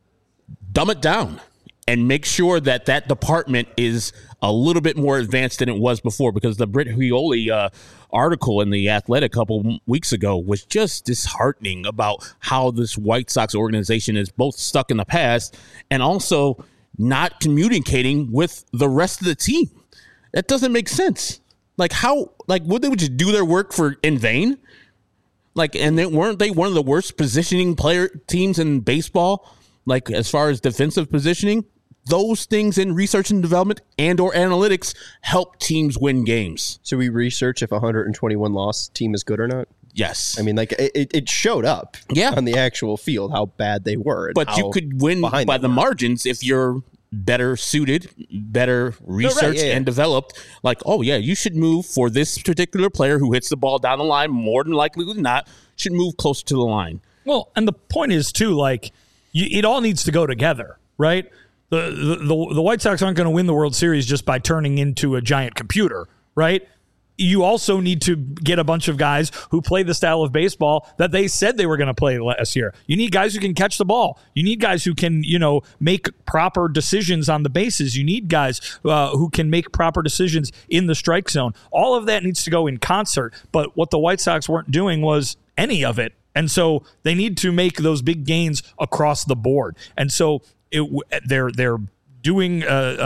dumb it down and make sure that that department is a little bit more advanced than it was before, because the Britt Huoli article in The Athletic a couple weeks ago was just disheartening about how this White Sox organization is both stuck in the past and also not communicating with the rest of the team. That doesn't make sense. Like, how, like, would they just do their work in vain? Like, and weren't they one of the worst positioning teams in baseball? Like, as far as defensive positioning, those things in research and development and or analytics help teams win games. So we research if a 121 loss team is good or not? Yes. I mean, like, it showed up on the actual field how bad they were. But you could win by the margins if you're better suited, better researched and developed. Like, oh yeah, you should move for this particular player who hits the ball down the line more than likely than not, should move closer to the line. Well, and the point is too, like, it all needs to go together, right? The White Sox aren't going to win the World Series just by turning into a giant computer, right? You also need to get a bunch of guys who play the style of baseball that they said they were going to play last year. You need guys who can catch the ball. You need guys who can, make proper decisions on the bases. You need guys who can make proper decisions in the strike zone. All of that needs to go in concert. But what the White Sox weren't doing was any of it. And so they need to make those big gains across the board. And so they're doing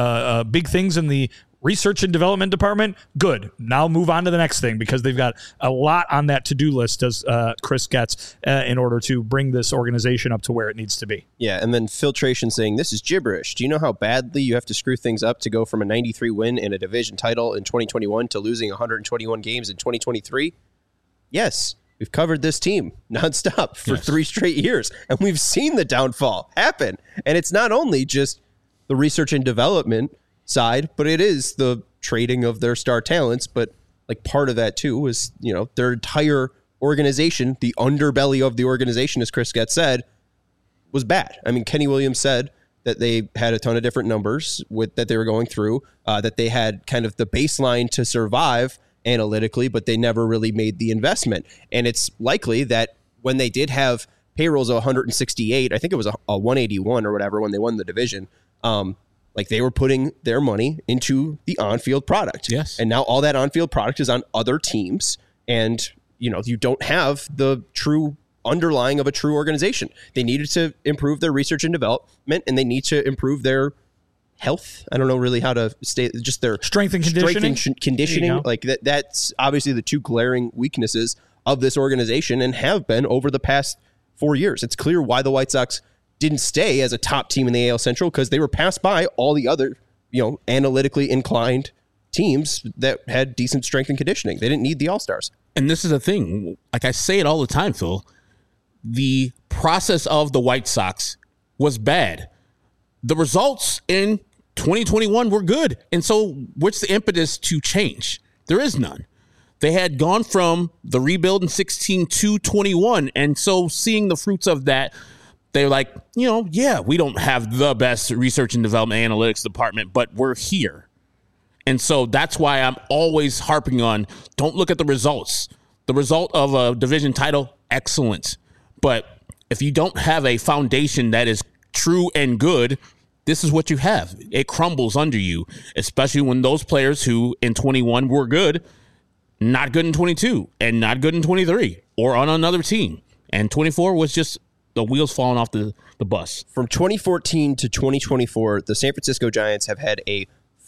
big things in the research and development department. Good. Now move on to the next thing, because they've got a lot on that to-do list, as Chris gets, in order to bring this organization up to where it needs to be. Yeah, and then Filtration saying, this is gibberish. Do you know how badly you have to screw things up to go from a 93 win and a division title in 2021 to losing 121 games in 2023? Yes. We've covered this team nonstop for 3 straight years, and we've seen the downfall happen. And it's not only just the research and development side, but it is the trading of their star talents. But like part of that too was, their entire organization, the underbelly of the organization, as Chris Getz said, was bad. I mean, Kenny Williams said that they had a ton of different numbers that they were going through, that they had kind of the baseline to survive analytically, but they never really made the investment. And it's likely that when they did have payrolls of 168, I think it was a 181 or whatever when they won the division, like they were putting their money into the on-field product. Yes. And now all that on-field product is on other teams. And, you don't have the true underlying of a true organization. They needed to improve their research and development, and they need to improve their health. I don't know really how to state, just their strength and conditioning. Conditioning. Like that's obviously the two glaring weaknesses of this organization and have been over the past 4 years. It's clear why the White Sox didn't stay as a top team in the AL Central, because they were passed by all the other, analytically inclined teams that had decent strength and conditioning. They didn't need the All-Stars. And this is the thing. Like I say it all the time, Phil, the process of the White Sox was bad. The results in 2021 were good. And so what's the impetus to change? There is none. They had gone from the rebuild in 16 to 21. And so seeing the fruits of that, they're like, we don't have the best research and development analytics department, but we're here. And so that's why I'm always harping on, don't look at the results. The result of a division title, excellent. But if you don't have a foundation that is true and good, this is what you have. It crumbles under you, especially when those players who in 21 were good, not good in 22 and not good in 23 or on another team. And 24 was just the wheels falling off the bus. From 2014 to 2024, the San Francisco Giants have had a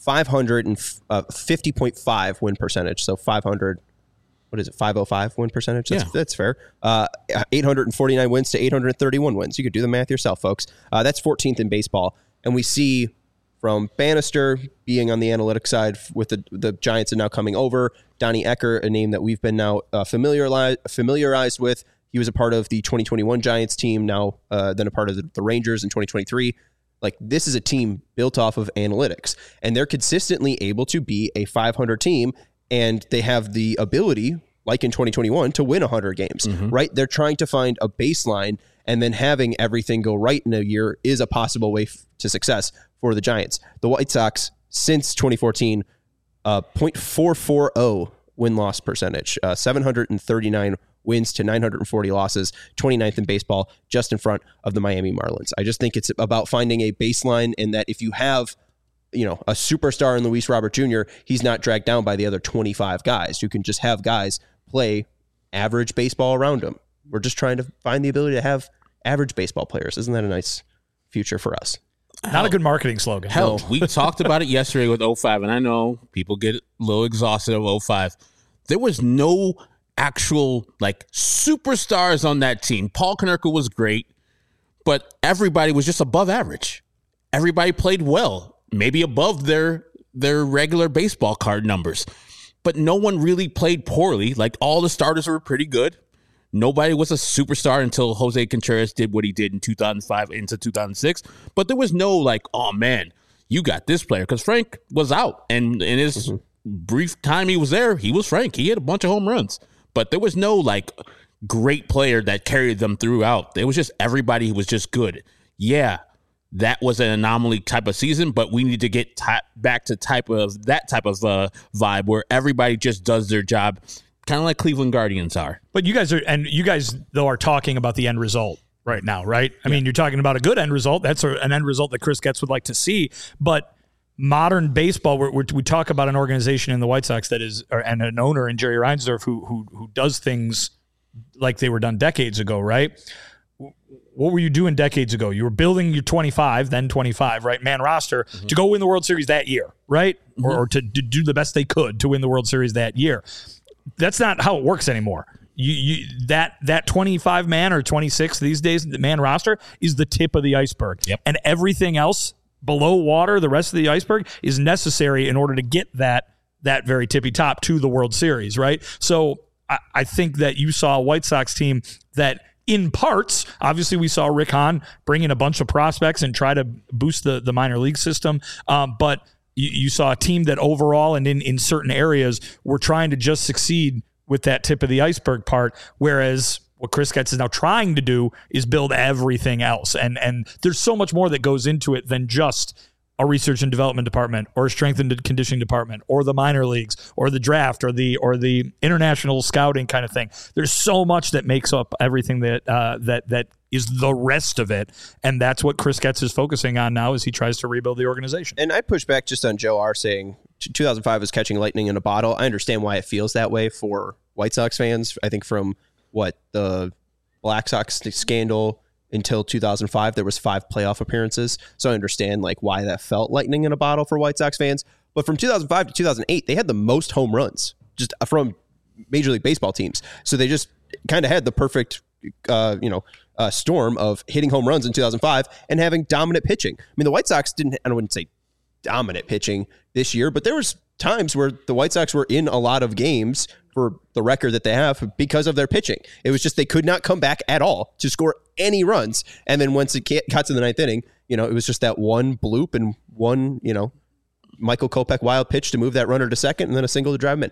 550.5 win percentage. So 500, what is it, 505 win percentage? That's fair. 849 wins to 831 wins. You could do the math yourself, folks. That's 14th in baseball. And we see from Bannister being on the analytics side with the Giants and now coming over, Donnie Ecker, a name that we've been now familiarized with. He was a part of the 2021 Giants team, now then a part of the Rangers in 2023. Like, this is a team built off of analytics, and they're consistently able to be a 500 team, and they have the ability, like in 2021, to win 100 games, right? They're trying to find a baseline, and then having everything go right in a year is a possible way to success for the Giants. The White Sox, since 2014, 0.440 win-loss percentage, 739 wins to 940 losses, 29th in baseball, just in front of the Miami Marlins. I just think it's about finding a baseline, in that if you have, a superstar in Luis Robert Jr., he's not dragged down by the other 25 guys. You can just have guys play average baseball around him. We're just trying to find the ability to have average baseball players. Isn't that a nice future for us? Not a good marketing slogan. Hell, we talked about it yesterday with 05, and I know people get a little exhausted of 05. There was no actual superstars on that team. Paul Konerko was great, but everybody was just above average. Everybody played well, maybe above their regular baseball card numbers, but no one really played poorly. Like, all the starters were pretty good. Nobody was a superstar until Jose Contreras did what he did in 2005 into 2006. But there was no oh man, you got this player, because Frank was out, and in his brief time he was there, he was Frank. He had a bunch of home runs. But there was no great player that carried them throughout. It was just everybody was just good. Yeah, that was an anomaly type of season, but we need to get back to that type of vibe where everybody just does their job, kind of like Cleveland Guardians are. But you guys though are talking about the end result right now, right? I mean, you're talking about a good end result. That's an end result that Chris Getz would like to see, but modern baseball, we talk about an organization in the White Sox that is, and an owner in Jerry Reinsdorf who does things like they were done decades ago, right? What were you doing decades ago? You were building your 25, right, man roster to go win the World Series that year, right? Or to do the best they could to win the World Series that year. That's not how it works anymore. That 25 man or 26 these days, the man roster is the tip of the iceberg. Yep. And everything else below water, the rest of the iceberg, is necessary in order to get that very tippy top to the World Series, right? So I think that you saw a White Sox team that, in parts, obviously we saw Rick Hahn bring in a bunch of prospects and try to boost the minor league system, but you saw a team that overall and in certain areas were trying to just succeed with that tip of the iceberg part, whereas what Chris Getz is now trying to do is build everything else. And there's so much more that goes into it than just a research and development department or a strength and conditioning department or the minor leagues or the draft or the international scouting kind of thing. There's so much that makes up everything that is the rest of it. And that's what Chris Getz is focusing on now as he tries to rebuild the organization. And I push back just on Joe R saying 2005 was catching lightning in a bottle. I understand why it feels that way for White Sox fans. I think from the Black Sox scandal until 2005, there was 5 playoff appearances. So I understand why that felt lightning in a bottle for White Sox fans. But from 2005 to 2008, they had the most home runs just from Major League Baseball teams. So they just kind of had the perfect, storm of hitting home runs in 2005 and having dominant pitching. I mean, the White Sox I wouldn't say dominant pitching this year, but there was times where the White Sox were in a lot of games for the record that they have because of their pitching. It was just they could not come back at all to score any runs. And then once it got to the 9th inning, it was just that one bloop and one, Michael Kopech wild pitch to move that runner to second and then a single to drive him in.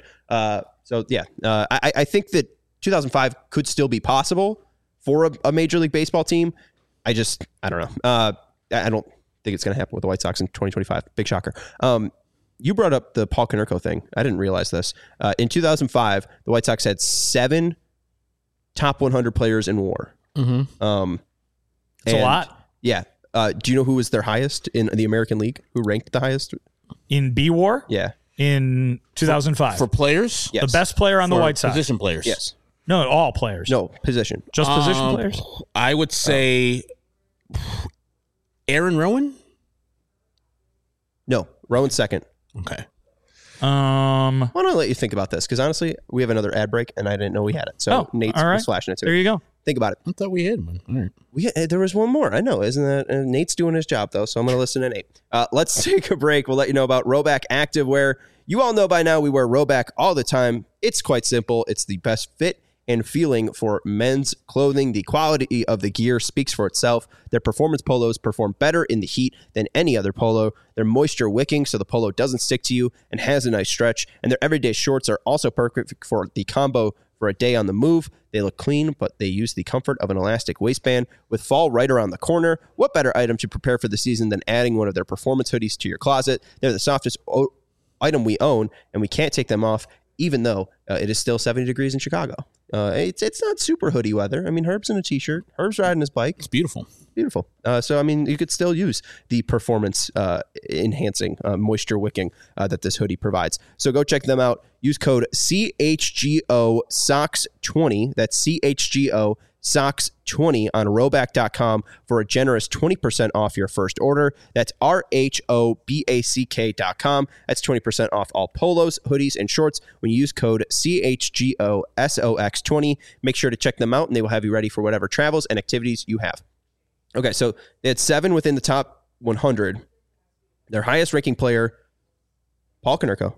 I think that 2005 could still be possible for a Major League Baseball team. I don't know. I don't think it's going to happen with the White Sox in 2025. Big shocker. You brought up the Paul Konerko thing. I didn't realize this. In 2005, the White Sox had 7 top 100 players in WAR. Mm-hmm. It's a lot. Yeah. Do you know who was their highest in the American League? Who ranked the highest? In B-WAR? Yeah. In 2005. For players? Yes. The best player on the White Sox. Position players. Yes. No, all players. No, position. Just position players? I would say Aaron Rowan. No, Rowan's second. Okay. Why don't I let you think about this? Because honestly, we have another ad break, and I didn't know we had it. So Nate was flashing it too. There you go. Think about it. I thought we had one. All right. There was one more. I know. Isn't that Nate's doing his job, though, so I'm going to listen to Nate. Let's take a break. We'll let you know about Rhoback Activewear. You all know by now we wear Rhoback all the time. It's quite simple. It's the best fit and feeling for men's clothing. The quality of the gear speaks for itself. Their performance polos perform better in the heat than any other polo. They're moisture wicking, so the polo doesn't stick to you and has a nice stretch. And their everyday shorts are also perfect for the combo for a day on the move. They look clean, but they use the comfort of an elastic waistband. With fall right around the corner, what better item to prepare for the season than adding one of their performance hoodies to your closet? They're the softest item we own, and we can't take them off, even though it is still 70 degrees in Chicago. It's not super hoodie weather. I mean, Herb's in a t-shirt. Herb's riding his bike. It's beautiful. Beautiful. So, I mean, you could still use the performance enhancing, moisture wicking that this hoodie provides. So go check them out. Use code CHGO SOCKS20. That's CHGO SOCKS20 on Rhoback.com for a generous 20% off your first order. That's RHOBACK.com. That's 20% off all polos, hoodies, and shorts when you use code CHGO SOX20. Make sure to check them out, and they will have you ready for whatever travels and activities you have. Okay, so they had 7 within the top 100. Their highest ranking player, Paul Konerko,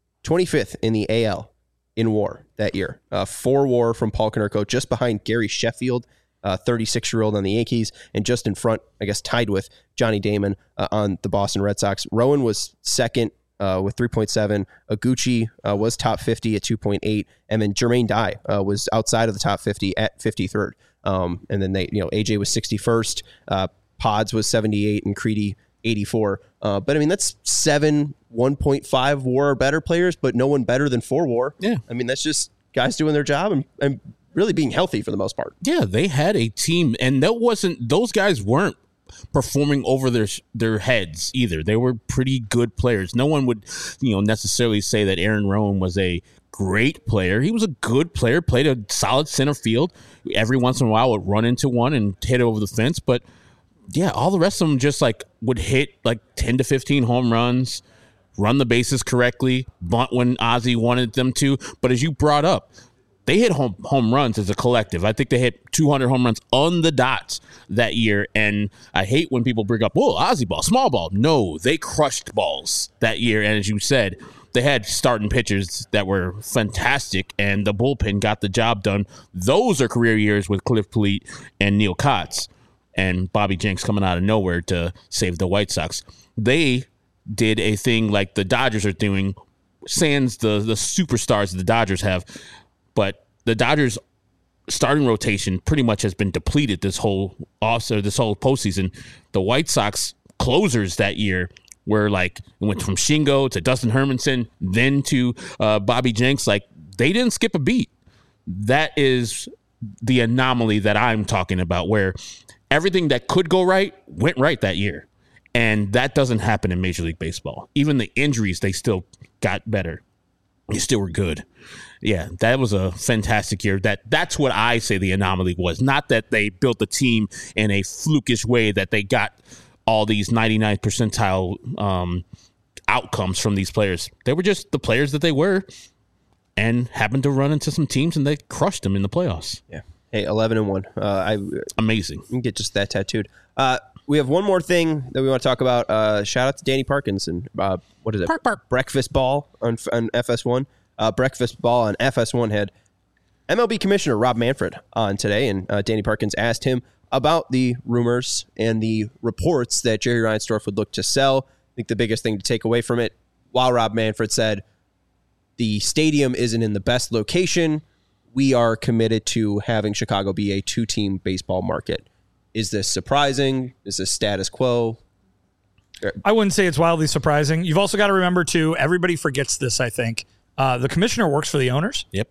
25th in the AL in WAR that year. 4 WAR from Paul Konerko, just behind Gary Sheffield, 36-year-old on the Yankees, and just in front, I guess, tied with Johnny Damon on the Boston Red Sox. Rowan was second with 3.7. Iguchi was top 50 at 2.8, and then Jermaine Dye was outside of the top 50 at 53rd. And then AJ was 61st, Pods was 78, and Creedy 84. But I mean, that's 7 1.5 WAR or better players, but no one better than 4 WAR. Yeah. I mean, that's just guys doing their job and really being healthy for the most part. Yeah, they had a team, and those guys weren't performing over their heads either. They were pretty good players. No one would, necessarily say that Aaron Rowan was a great player. He was a good player, played a solid center field. Every once in a while would run into one and hit over the fence, but yeah, all the rest of them just would hit 10 to 15 home runs, run the bases correctly, bunt when Ozzie wanted them to. But as you brought up, they hit home runs as a collective. I think they hit 200 home runs on the dot that year. And I hate when people bring up, Ozzie ball, small ball. No, they crushed balls that year. And as you said, they had starting pitchers that were fantastic, and the bullpen got the job done. Those are career years with Cliff Polite and Neil Kotz and Bobby Jenks coming out of nowhere to save the White Sox. They did a thing like the Dodgers are doing, sans the superstars that the Dodgers have, but the Dodgers starting rotation pretty much has been depleted this whole postseason. The White Sox closers that year were it went from Shingo to Dustin Hermanson, then to Bobby Jenks. They didn't skip a beat. That is the anomaly that I'm talking about, where everything that could go right went right that year. And that doesn't happen in Major League Baseball. Even the injuries, they still got better. They still were good. Yeah, that was a fantastic year. That's what I say the anomaly was. Not that they built the team in a flukish way, that they got all these 99th percentile outcomes from these players. They were just the players that they were and happened to run into some teams, and they crushed them in the playoffs. Yeah. Hey, 11-1. Amazing. You can get just that tattooed. We have one more thing that we want to talk about. Shout out to Danny Parkinson. What is it? Park. Breakfast Ball on FS1. Breakfast Ball on FS1 had MLB Commissioner Rob Manfred on today, and Danny Parkins asked him about the rumors and the reports that Jerry Reinsdorf would look to sell. I think the biggest thing to take away from it, while Rob Manfred said the stadium isn't in the best location, we are committed to having Chicago be a 2-team baseball market. Is this surprising? Is this status quo? I wouldn't say it's wildly surprising. You've also got to remember, too, everybody forgets this, I think. The commissioner works for the owners. Yep.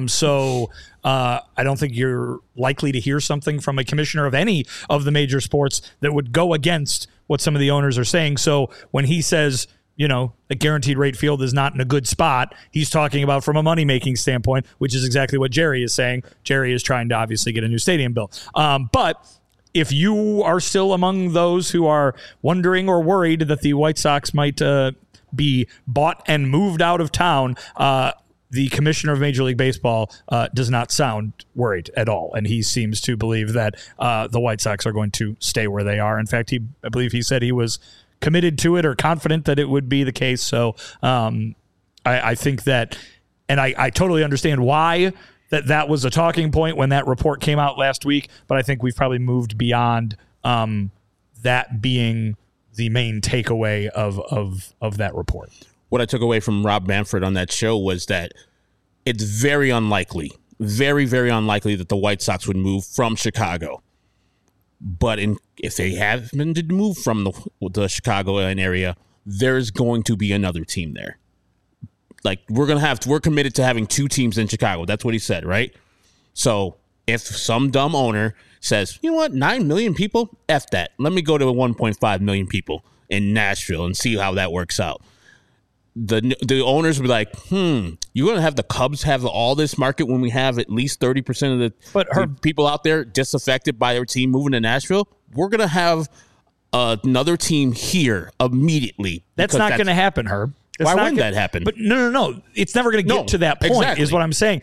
So I don't think you're likely to hear something from a commissioner of any of the major sports that would go against what some of the owners are saying. So when he says, the guaranteed rate field is not in a good spot. He's talking about from a money-making standpoint, which is exactly what Jerry is saying. Jerry is trying to obviously get a new stadium built. But if you are still among those who are wondering or worried that the White Sox might be bought and moved out of town, the commissioner of Major League Baseball does not sound worried at all. And he seems to believe that the White Sox are going to stay where they are. In fact, I believe he said he was committed to it or confident that it would be the case. So I think that, and I totally understand why that was a talking point when that report came out last week, but I think we've probably moved beyond that being the main takeaway of that report. What I took away from Rob Manfred on that show was that it's very unlikely, very, very unlikely that the White Sox would move from Chicago. But if they happen to move from the Chicago area, there's going to be another team there. Like we're committed to having 2 teams in Chicago. That's what he said, right? So if some dumb owner says, you know what, 9 million people, F that. Let me go to 1.5 million people in Nashville and see how that works out. The owners would be like, you're going to have the Cubs have all this market when we have at least 30% of the people out there disaffected by their team moving to Nashville. We're going to have another team here immediately. That's not going to happen, Herb. Why wouldn't that happen? But no. It's never going to get to that point, exactly. Is what I'm saying.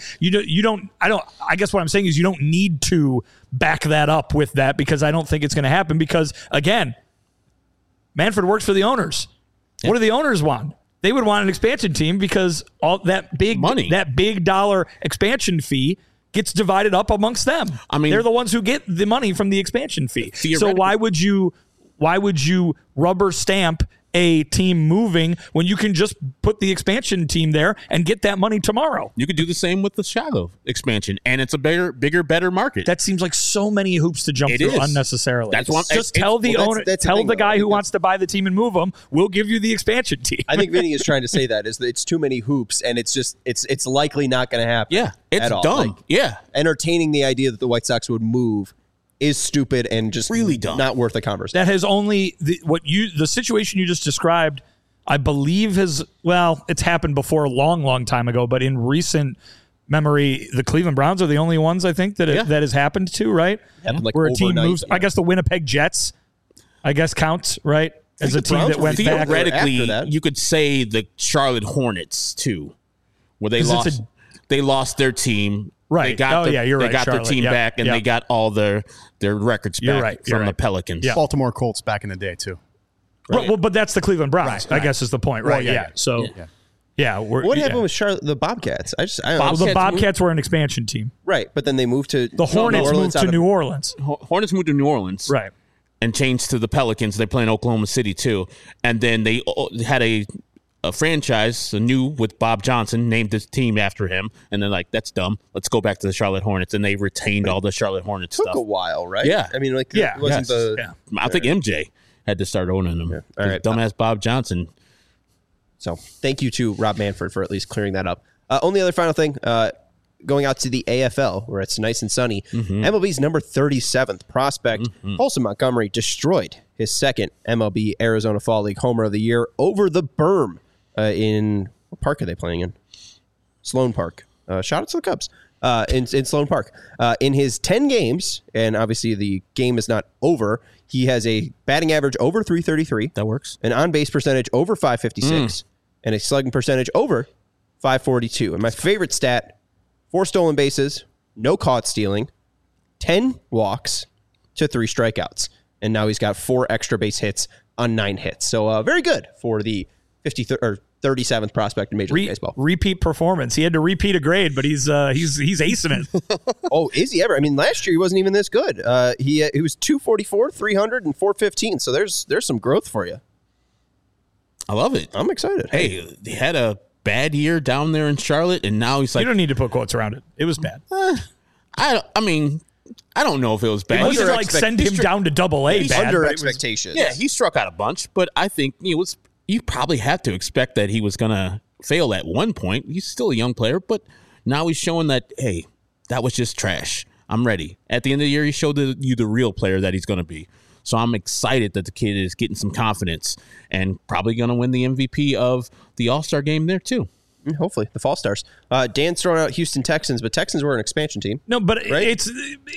I guess what I'm saying is you don't need to back that up with that because I don't think it's going to happen because, again, Manfred works for the owners. Yeah. What do the owners want? They would want an expansion team because all that big money, that big dollar expansion fee gets divided up amongst them. I mean, they're the ones who get the money from the expansion fee. So why would you rubber stamp a team moving when you can just put the expansion team there and get that money tomorrow? You could do the same with the Chicago expansion, and it's a bigger, better market. That seems like so many hoops to jump through unnecessarily. That's just tell the owner, tell the guy who wants to buy the team and move them, we'll give you the expansion team. I think Vinny is trying to say that it's too many hoops, and it's likely not going to happen. Yeah, it's dumb. Entertaining the idea that the White Sox would move is stupid and just really dumb. Not worth a conversation. That has only the situation you just described, I believe it's happened before a long time ago, but in recent memory, the Cleveland Browns are the only ones I think that that has happened to, right? Where a team moves. Yeah. I guess the Winnipeg Jets, counts, right? As a team that went back. Theoretically, you could say the Charlotte Hornets too, where they lost their team. Right. You're right. They got their team back, and they got all their records back from the Pelicans. Yeah. Baltimore Colts back in the day, too. Right. Well, but that's the Cleveland Browns, I guess is the point, right? What happened with Charlotte, the Bobcats? I don't know. The Bobcats were an expansion team. Right, but then they moved to the Hornets moved to New Orleans. Hornets moved to New Orleans. Right. And changed to the Pelicans. They play in Oklahoma City, too. And then they had a franchise, with Bob Johnson, named this team after him, and they're like, that's dumb. Let's go back to the Charlotte Hornets, and they retained all the Charlotte Hornets stuff. Took a while, right? Yeah. I mean, it wasn't I think MJ had to start owning them. Yeah. All right, dumbass Bob Johnson. So thank you to Rob Manfred for at least clearing that up. Only other final thing, going out to the AFL, where it's nice and sunny, MLB's number 37th prospect, Colson Montgomery, destroyed his second MLB Arizona Fall League Homer of the Year over the berm. In what park are they playing in? Sloan Park. Shout out to the Cubs. In Sloan Park. In his 10 games, and obviously the game is not over, he has a batting average over 333. That works. An on-base percentage over 556. And a slugging percentage over 542. And my favorite stat, 4 stolen bases, no caught stealing, 10 walks to 3 strikeouts. And now he's got 4 extra base hits on 9 hits. So very good for the 37th prospect in Major League Baseball. Repeat performance. He had to repeat a grade, but he's acing it. Oh, is he ever? I mean, last year he wasn't even this good. He was 244, 300, and 415. So there's some growth for you. I love it. I'm excited. Hey, he had a bad year down there in Charlotte, and now he's like, you don't need to put quotes around it. It was bad. I don't know if it was bad. It wasn't like send him down to AA. Bad, under expectations. Yeah, he struck out a bunch, but I think you probably have to expect that he was going to fail at one point. He's still a young player, but now he's showing that, hey, that was just trash. I'm ready. At the end of the year, he showed you the real player that he's going to be. So I'm excited that the kid is getting some confidence and probably going to win the MVP of the All-Star game there too. Hopefully, the Fall Stars. Dan's throwing out Houston Texans, but Texans were an expansion team. No, but right? it's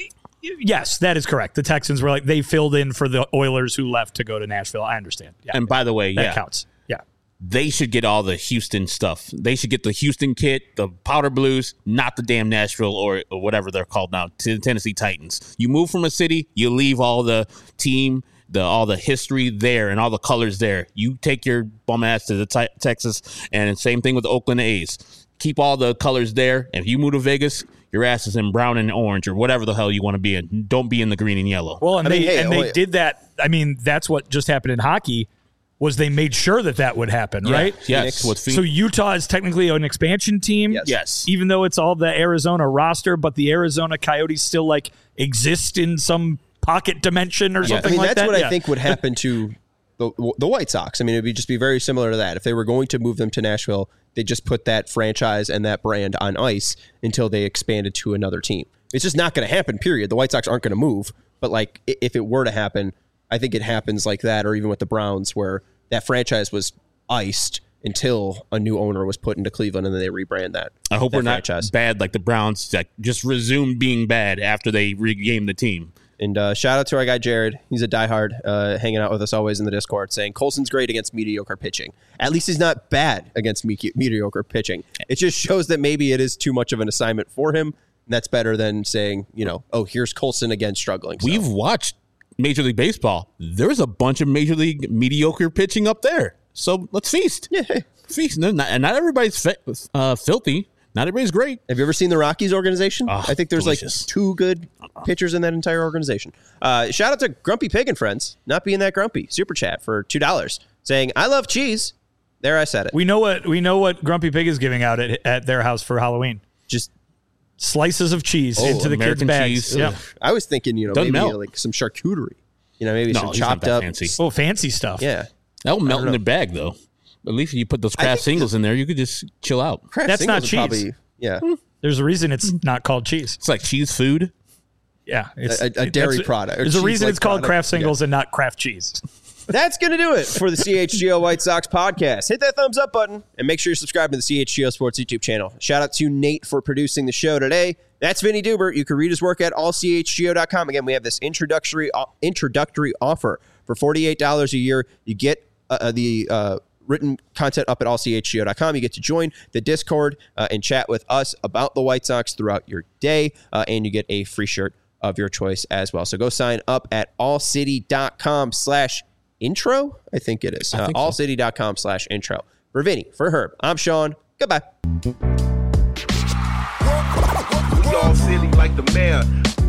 yes, that is correct. The Texans were they filled in for the Oilers who left to go to Nashville. I understand. Yeah, And by the way, that counts. Yeah. They should get all the Houston stuff. They should get the Houston kit, the powder blues, not the damn Nashville or whatever they're called now, to the Tennessee Titans. You move from a city, you leave all the team, all the history there and all the colors there. You take your bum ass to the Texas, and same thing with the Oakland A's. Keep all the colors there. And if you move to Vegas, your ass is in brown and orange or whatever the hell you want to be in. Don't be in the green and yellow. Well, they did that. I mean, that's what just happened in hockey. Was they made sure that would happen, right? Yes. So Utah is technically an expansion team. Yes. Even though it's all the Arizona roster, but the Arizona Coyotes still exist in some pocket dimension or something like that. That's what I think would happen to the White Sox. I mean, it would just be very similar to that. If they were going to move them to Nashville, they just put that franchise and that brand on ice until they expanded to another team. It's just not going to happen, period. The White Sox aren't going to move. But if it were to happen, I think it happens like that, or even with the Browns, where that franchise was iced until a new owner was put into Cleveland, and then they rebrand that. I hope we're not franchise. bad like the Browns, just resumed being bad after they regained the team. And shout out to our guy Jared. He's a diehard, hanging out with us always in the Discord, saying Colson's great against mediocre pitching. At least he's not bad against mediocre pitching. It just shows that maybe it is too much of an assignment for him. And that's better than saying, here's Colson again struggling. So. We've watched Major League Baseball. There's a bunch of Major League mediocre pitching up there. So let's feast. Yeah. Feast. And not everybody's filthy. Not everybody's great. Have you ever seen the Rockies organization? I think there's delicious. 2 good pitchers in that entire organization. Shout out to Grumpy Pig and Friends, not being that grumpy. Super chat for $2, saying, I love cheese. There, I said it. We know what Grumpy Pig is giving out at their house for Halloween. Just slices of cheese into the kids' American bags. cheese. Yeah. I was thinking, Doesn't maybe melt. some charcuterie. Maybe No, some he's not chopped that up. fancy. Oh, fancy stuff. Yeah. That'll melt in the bag, though. At least if you put those Kraft singles in there, you could just chill out. Kraft That's not singles are cheese. probably, yeah. There's a reason it's not called cheese. It's like cheese food. Yeah. It's A dairy product. There's a reason cheese-like it's called product. Kraft Singles and not Kraft Cheese. That's going to do it for the CHGO White Sox podcast. Hit that thumbs up button and make sure you're subscribed to the CHGO Sports YouTube channel. Shout out to Nate for producing the show today. That's Vinny Dubert. You can read his work at allchgo.com. Again, we have this introductory offer for $48 a year. You get the written content up at allchgo.com. You get to join the Discord and chat with us about the White Sox throughout your day, and you get a free shirt of your choice as well. So go sign up at allcity.com/intro. I think it is. Allcity.com/intro. For Vinny, for Herb, I'm Sean. Goodbye. We all silly like the mayor.